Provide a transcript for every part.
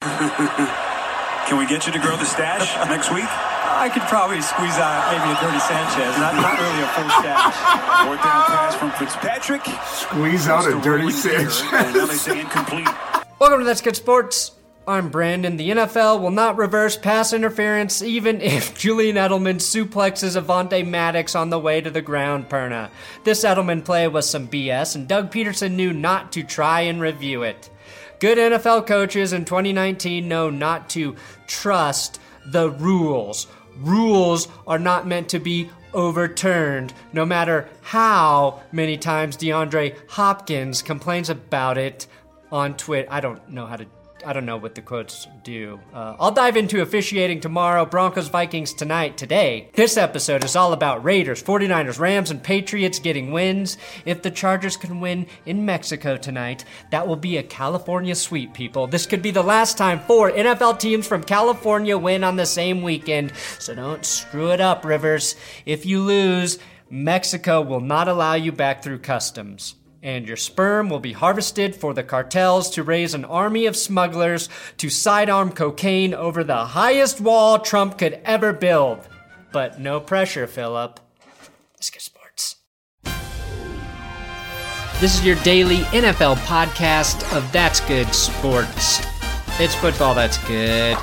Can we get you to grow the stash next week? I could probably squeeze out maybe a Dirty Sanchez. Not really a full stash. Fourth down pass from Fitzpatrick. Squeeze out a Dirty Sanchez. And now they say incomplete. Welcome to That's Good Sports. I'm Brandon. The NFL will not reverse pass interference even if Julian Edelman suplexes Avonte Maddox on the way to the ground, Perna. This Edelman play was some BS, and Doug Peterson knew not to try and review it. Good NFL coaches in 2019 know not to trust the rules. Rules are not meant to be overturned, no matter how many times DeAndre Hopkins complains about it on Twitter. I don't know what the quotes do. I'll dive into officiating tomorrow, Broncos, Vikings tonight. Today, this episode is all about Raiders, 49ers, Rams, and Patriots getting wins. If the Chargers can win in Mexico tonight, that will be a California sweep, people. This could be the last time 4 NFL teams from California win on the same weekend, so don't screw it up, Rivers. If you lose, Mexico will not allow you back through customs. And your sperm will be harvested for the cartels to raise an army of smugglers to sidearm cocaine over the highest wall Trump could ever build. But no pressure, Philip. Let's get sports. This is your daily NFL podcast of That's Good Sports. It's football that's good.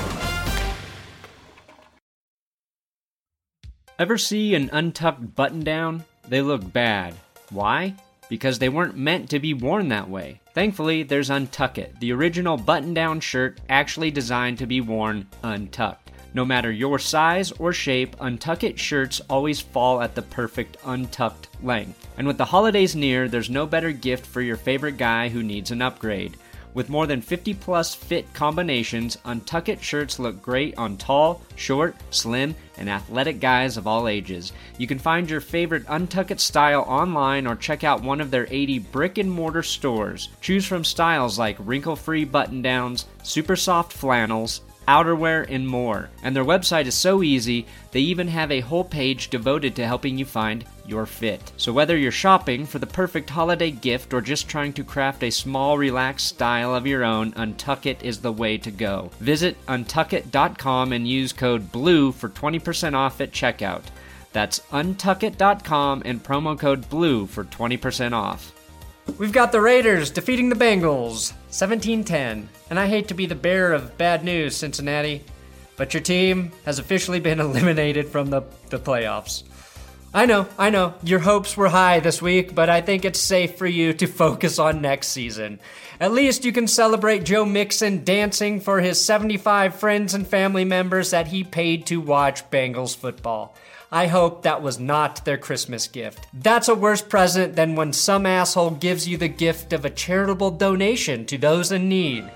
Ever see an untucked button-down? They look bad. Why? Because they weren't meant to be worn that way. Thankfully, there's Untuck It, the original button-down shirt actually designed to be worn untucked. No matter your size or shape, Untuck It shirts always fall at the perfect untucked length. And with the holidays near, there's no better gift for your favorite guy who needs an upgrade. With more than 50 plus fit combinations, Untuck It shirts look great on tall, short, slim, and athletic guys of all ages. You can find your favorite Untuck It style online or check out one of their 80 brick and mortar stores. Choose from styles like wrinkle-free button-downs, super soft flannels, outerwear, and more. And their website is so easy, they even have a whole page devoted to helping you find your fit. So whether you're shopping for the perfect holiday gift or just trying to craft a small, relaxed style of your own, Untuck It is the way to go. Visit untuckit.com and use code BLUE for 20% off at checkout. That's untuckit.com and promo code BLUE for 20% off. We've got the Raiders defeating the Bengals, 17-10. And I hate to be the bearer of bad news, Cincinnati, but your team has officially been eliminated from the playoffs. I know, your hopes were high this week, but I think it's safe for you to focus on next season. At least you can celebrate Joe Mixon dancing for his 75 friends and family members that he paid to watch Bengals football. I hope that was not their Christmas gift. That's a worse present than when some asshole gives you the gift of a charitable donation to those in need.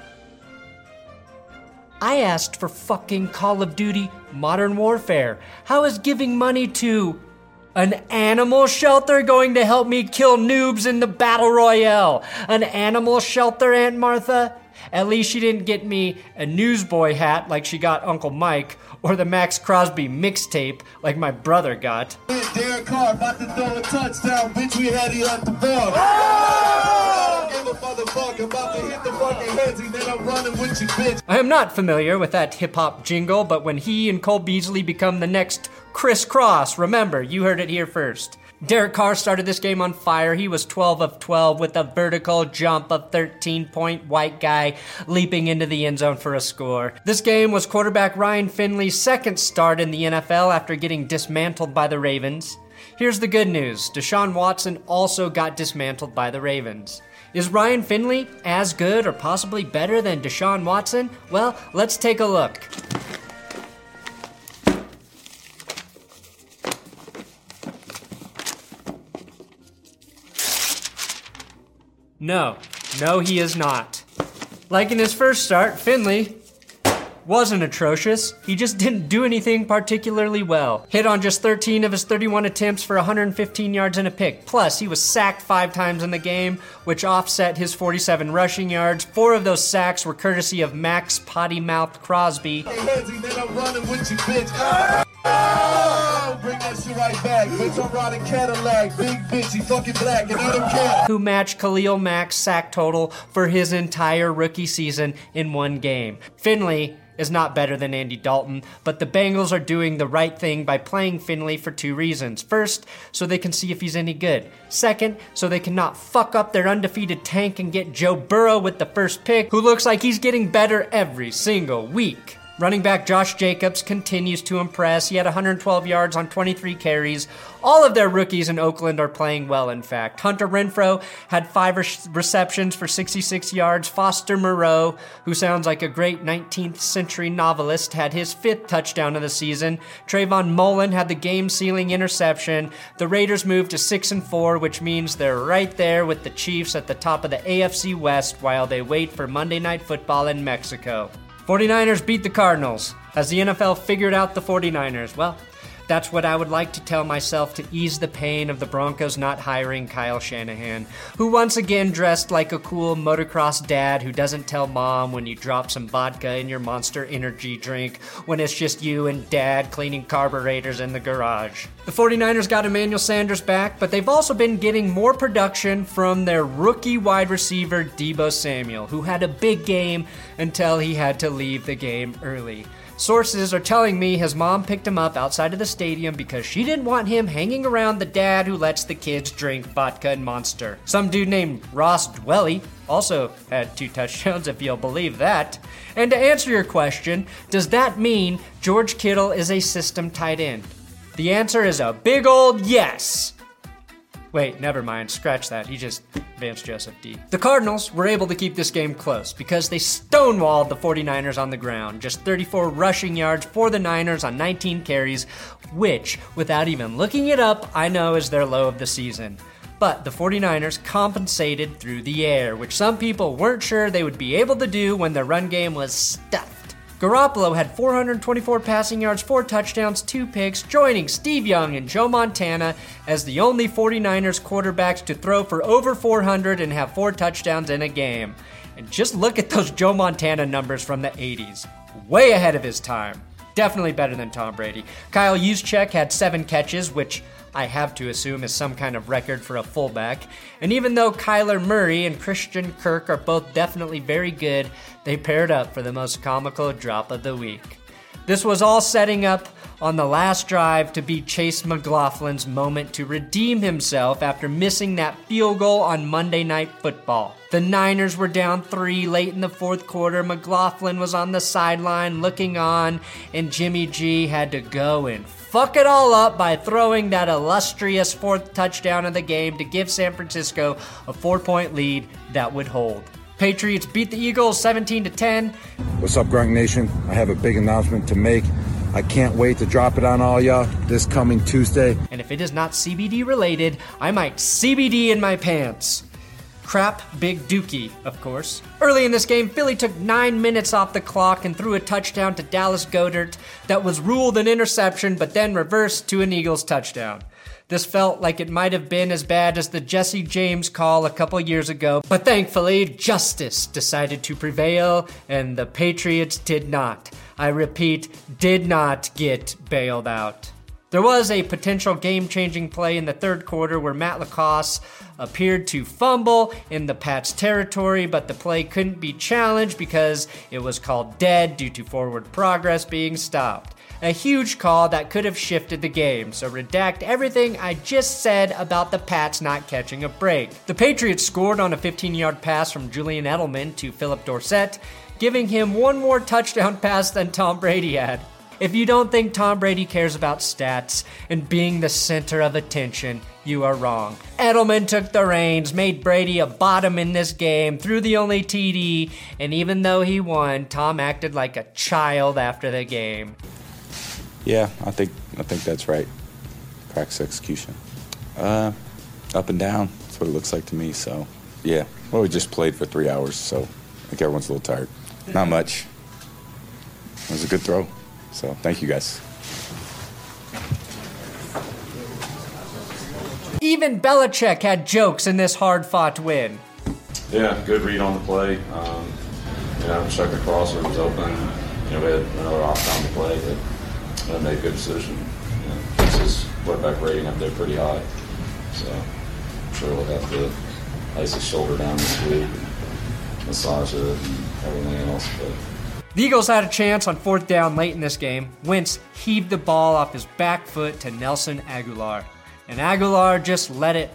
I asked for fucking Call of Duty Modern Warfare. How is giving money to an animal shelter going to help me kill noobs in the Battle Royale? An animal shelter, Aunt Martha? At least she didn't get me a newsboy hat like she got Uncle Mike, or the Max Crosby mixtape like my brother got. Derek Carr about to throw a touchdown, bitch, we had you at the ball. I am not familiar with that hip-hop jingle, but when he and Cole Beasley become the next Chris Cross, remember, you heard it here first. Derek Carr started this game on fire. He was 12 of 12 with a vertical jump of 13-point white guy leaping into the end zone for a score. This game was quarterback Ryan Finley's second start in the NFL after getting dismantled by the Ravens. Here's the good news. Deshaun Watson also got dismantled by the Ravens. Is Ryan Finley as good or possibly better than Deshaun Watson? Well, let's take a look. No, he is not. Like in his first start, Finley wasn't atrocious. He just didn't do anything particularly well. Hit on just 13 of his 31 attempts for 115 yards and a pick. Plus, he was sacked 5 times in the game, which offset his 47 rushing yards. 4 of those sacks were courtesy of Max Potty Mouth Crosby. bring that shit right back. Bitch, I'm riding Cadillac. Big bitch, he fucking black, and I don't care. Who matched Khalil Mack's sack total for his entire rookie season in one game. Finley is not better than Andy Dalton, but the Bengals are doing the right thing by playing Finley for two reasons. First, so they can see if he's any good. Second, so they cannot fuck up their undefeated tank and get Joe Burrow with the first pick, who looks like he's getting better every single week. Running back Josh Jacobs continues to impress. He had 112 yards on 23 carries. All of their rookies in Oakland are playing well, in fact. Hunter Renfrow had 5 receptions for 66 yards. Foster Moreau, who sounds like a great 19th century novelist, had his 5th touchdown of the season. Trayvon Mullen had the game-sealing interception. The Raiders moved to 6-4, which means they're right there with the Chiefs at the top of the AFC West while they wait for Monday Night Football in Mexico. 49ers beat the Cardinals. Has the NFL figured out the 49ers? Well, that's what I would like to tell myself to ease the pain of the Broncos not hiring Kyle Shanahan, who once again dressed like a cool motocross dad who doesn't tell mom when you drop some vodka in your Monster Energy drink when it's just you and dad cleaning carburetors in the garage. The 49ers got Emmanuel Sanders back, but they've also been getting more production from their rookie wide receiver Deebo Samuel, who had a big game until he had to leave the game early. Sources are telling me his mom picked him up outside of the stadium because she didn't want him hanging around the dad who lets the kids drink vodka and Monster. Some dude named Ross Dwelly also had 2 touchdowns, if you'll believe that. And to answer your question, does that mean George Kittle is a system tight end? The answer is a big old yes. Wait, never mind, scratch that, he just Vance Joseph D. The Cardinals were able to keep this game close because they stonewalled the 49ers on the ground. Just 34 rushing yards for the Niners on 19 carries, which, without even looking it up, I know is their low of the season. But the 49ers compensated through the air, which some people weren't sure they would be able to do when their run game was stuffed. Garoppolo had 424 passing yards, 4 touchdowns, 2 picks, joining Steve Young and Joe Montana as the only 49ers quarterbacks to throw for over 400 and have 4 touchdowns in a game. And just look at those Joe Montana numbers from the 80s. Way ahead of his time. Definitely better than Tom Brady. Kyle Juszczyk had 7 catches, which I have to assume is some kind of record for a fullback. And even though Kyler Murray and Christian Kirk are both definitely very good, they paired up for the most comical drop of the week. This was all setting up on the last drive to be Chase McLaughlin's moment to redeem himself after missing that field goal on Monday Night Football. The Niners were down 3 late in the 4th quarter. McLaughlin was on the sideline looking on, and Jimmy G had to go and fuck it all up by throwing that illustrious 4th touchdown of the game to give San Francisco a 4-point lead that would hold. Patriots beat the Eagles 17-10. What's up, Gronk Nation? I have a big announcement to make. I can't wait to drop it on all y'all this coming Tuesday. And if it is not CBD related, I might CBD in my pants. Crap Big Dookie, of course. Early in this game, Philly took 9 minutes off the clock and threw a touchdown to Dallas Goedert that was ruled an interception but then reversed to an Eagles touchdown. This felt like it might have been as bad as the Jesse James call a couple years ago, but thankfully, justice decided to prevail, and the Patriots did not. I repeat, did not get bailed out. There was a potential game-changing play in the 3rd quarter where Matt LaCosse appeared to fumble in the Pats' territory, but the play couldn't be challenged because it was called dead due to forward progress being stopped. A huge call that could have shifted the game, so redact everything I just said about the Pats not catching a break. The Patriots scored on a 15-yard pass from Julian Edelman to Philip Dorsett, giving him one more touchdown pass than Tom Brady had. If you don't think Tom Brady cares about stats and being the center of attention, you are wrong. Edelman took the reins, made Brady a bottom in this game, threw the only TD, and even though he won, Tom acted like a child after the game. Yeah, I think that's right. Practice execution. Up and down. That's what it looks like to me. So, yeah. Well, we just played for 3 hours, so I think everyone's a little tired. Not much. It was a good throw. So, thank you guys. Even Belichick had jokes in this hard-fought win. Yeah, good read on the play. Check the crosser was open. We had another off-time to play, but I made a good decision. Keeps us quarterback rating up there pretty high. So I'm sure we'll have to ice his shoulder down this week, massage it, and everything else. But the Eagles had a chance on 4th down late in this game. Wentz heaved the ball off his back foot to Nelson Aguilar, and Aguilar just let it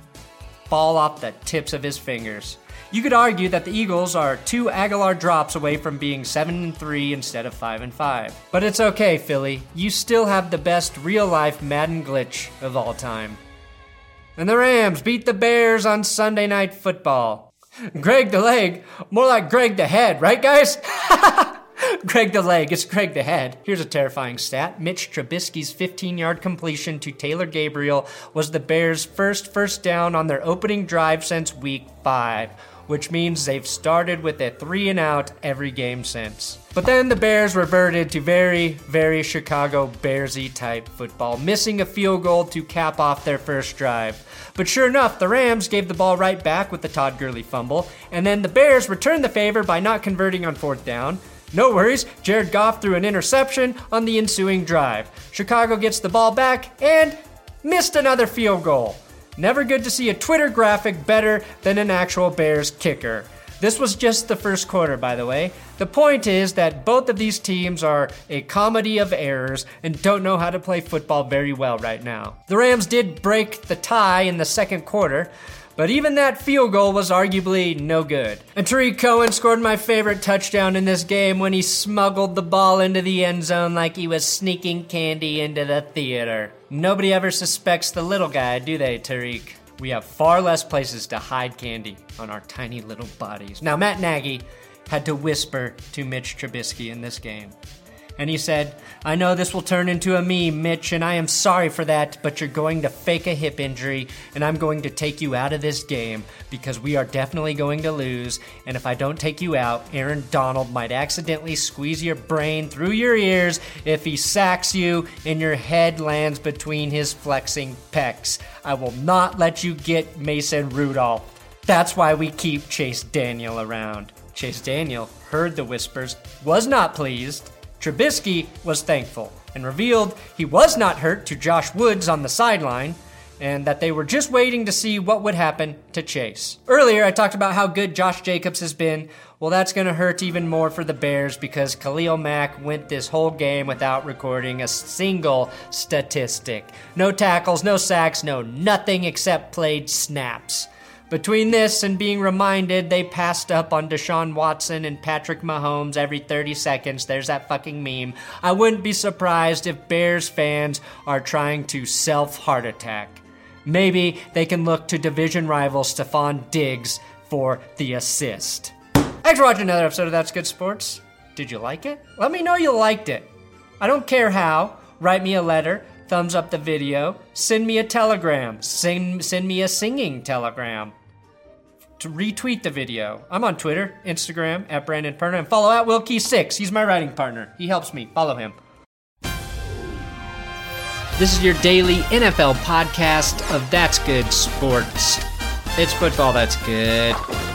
fall off the tips of his fingers. You could argue that the Eagles are 2 Aguilar drops away from being 7-3 instead of 5-5. But it's okay, Philly. You still have the best real-life Madden glitch of all time. And the Rams beat the Bears on Sunday Night Football. Greg the Leg, more like Greg the Head, right guys? Greg the Leg, it's Greg the Head. Here's a terrifying stat. Mitch Trubisky's 15-yard completion to Taylor Gabriel was the Bears' first down on their opening drive since Week 5, which means they've started with a 3-and-out every game since. But then the Bears reverted to very, very Chicago Bearsy type football, missing a field goal to cap off their first drive. But sure enough, the Rams gave the ball right back with the Todd Gurley fumble, and then the Bears returned the favor by not converting on 4th down. No worries, Jared Goff threw an interception on the ensuing drive. Chicago gets the ball back and missed another field goal. Never good to see a Twitter graphic better than an actual Bears kicker. This was just the first quarter, by the way. The point is that both of these teams are a comedy of errors and don't know how to play football very well right now. The Rams did break the tie in the second quarter, but even that field goal was arguably no good. And Tariq Cohen scored my favorite touchdown in this game when he smuggled the ball into the end zone like he was sneaking candy into the theater. Nobody ever suspects the little guy, do they, Tariq? We have far less places to hide candy on our tiny little bodies. Now, Matt Nagy had to whisper to Mitch Trubisky in this game. And he said, "I know this will turn into a meme, Mitch, and I am sorry for that, but you're going to fake a hip injury, and I'm going to take you out of this game because we are definitely going to lose, and if I don't take you out, Aaron Donald might accidentally squeeze your brain through your ears if he sacks you and your head lands between his flexing pecs. I will not let you get Mason Rudolph. That's why we keep Chase Daniel around." Chase Daniel heard the whispers, was not pleased. Trubisky was thankful and revealed he was not hurt to Josh Woods on the sideline and that they were just waiting to see what would happen to Chase. Earlier, I talked about how good Josh Jacobs has been. Well, that's going to hurt even more for the Bears because Khalil Mack went this whole game without recording a single statistic. No tackles, no sacks, no nothing except played snaps. Between this and being reminded they passed up on Deshaun Watson and Patrick Mahomes every 30 seconds, there's that fucking meme, I wouldn't be surprised if Bears fans are trying to self-heart attack. Maybe they can look to division rival Stephon Diggs for the assist. Thanks for watching another episode of That's Good Sports. Did you like it? Let me know you liked it. I don't care how. Write me a letter. Thumbs up the video. Send me a telegram. Send me a singing telegram. To retweet the video. I'm on Twitter, Instagram, at Brandon Perna, and follow at Wilkie6. He's my writing partner. He helps me. Follow him. This is your daily NFL podcast of That's Good Sports. It's football that's good.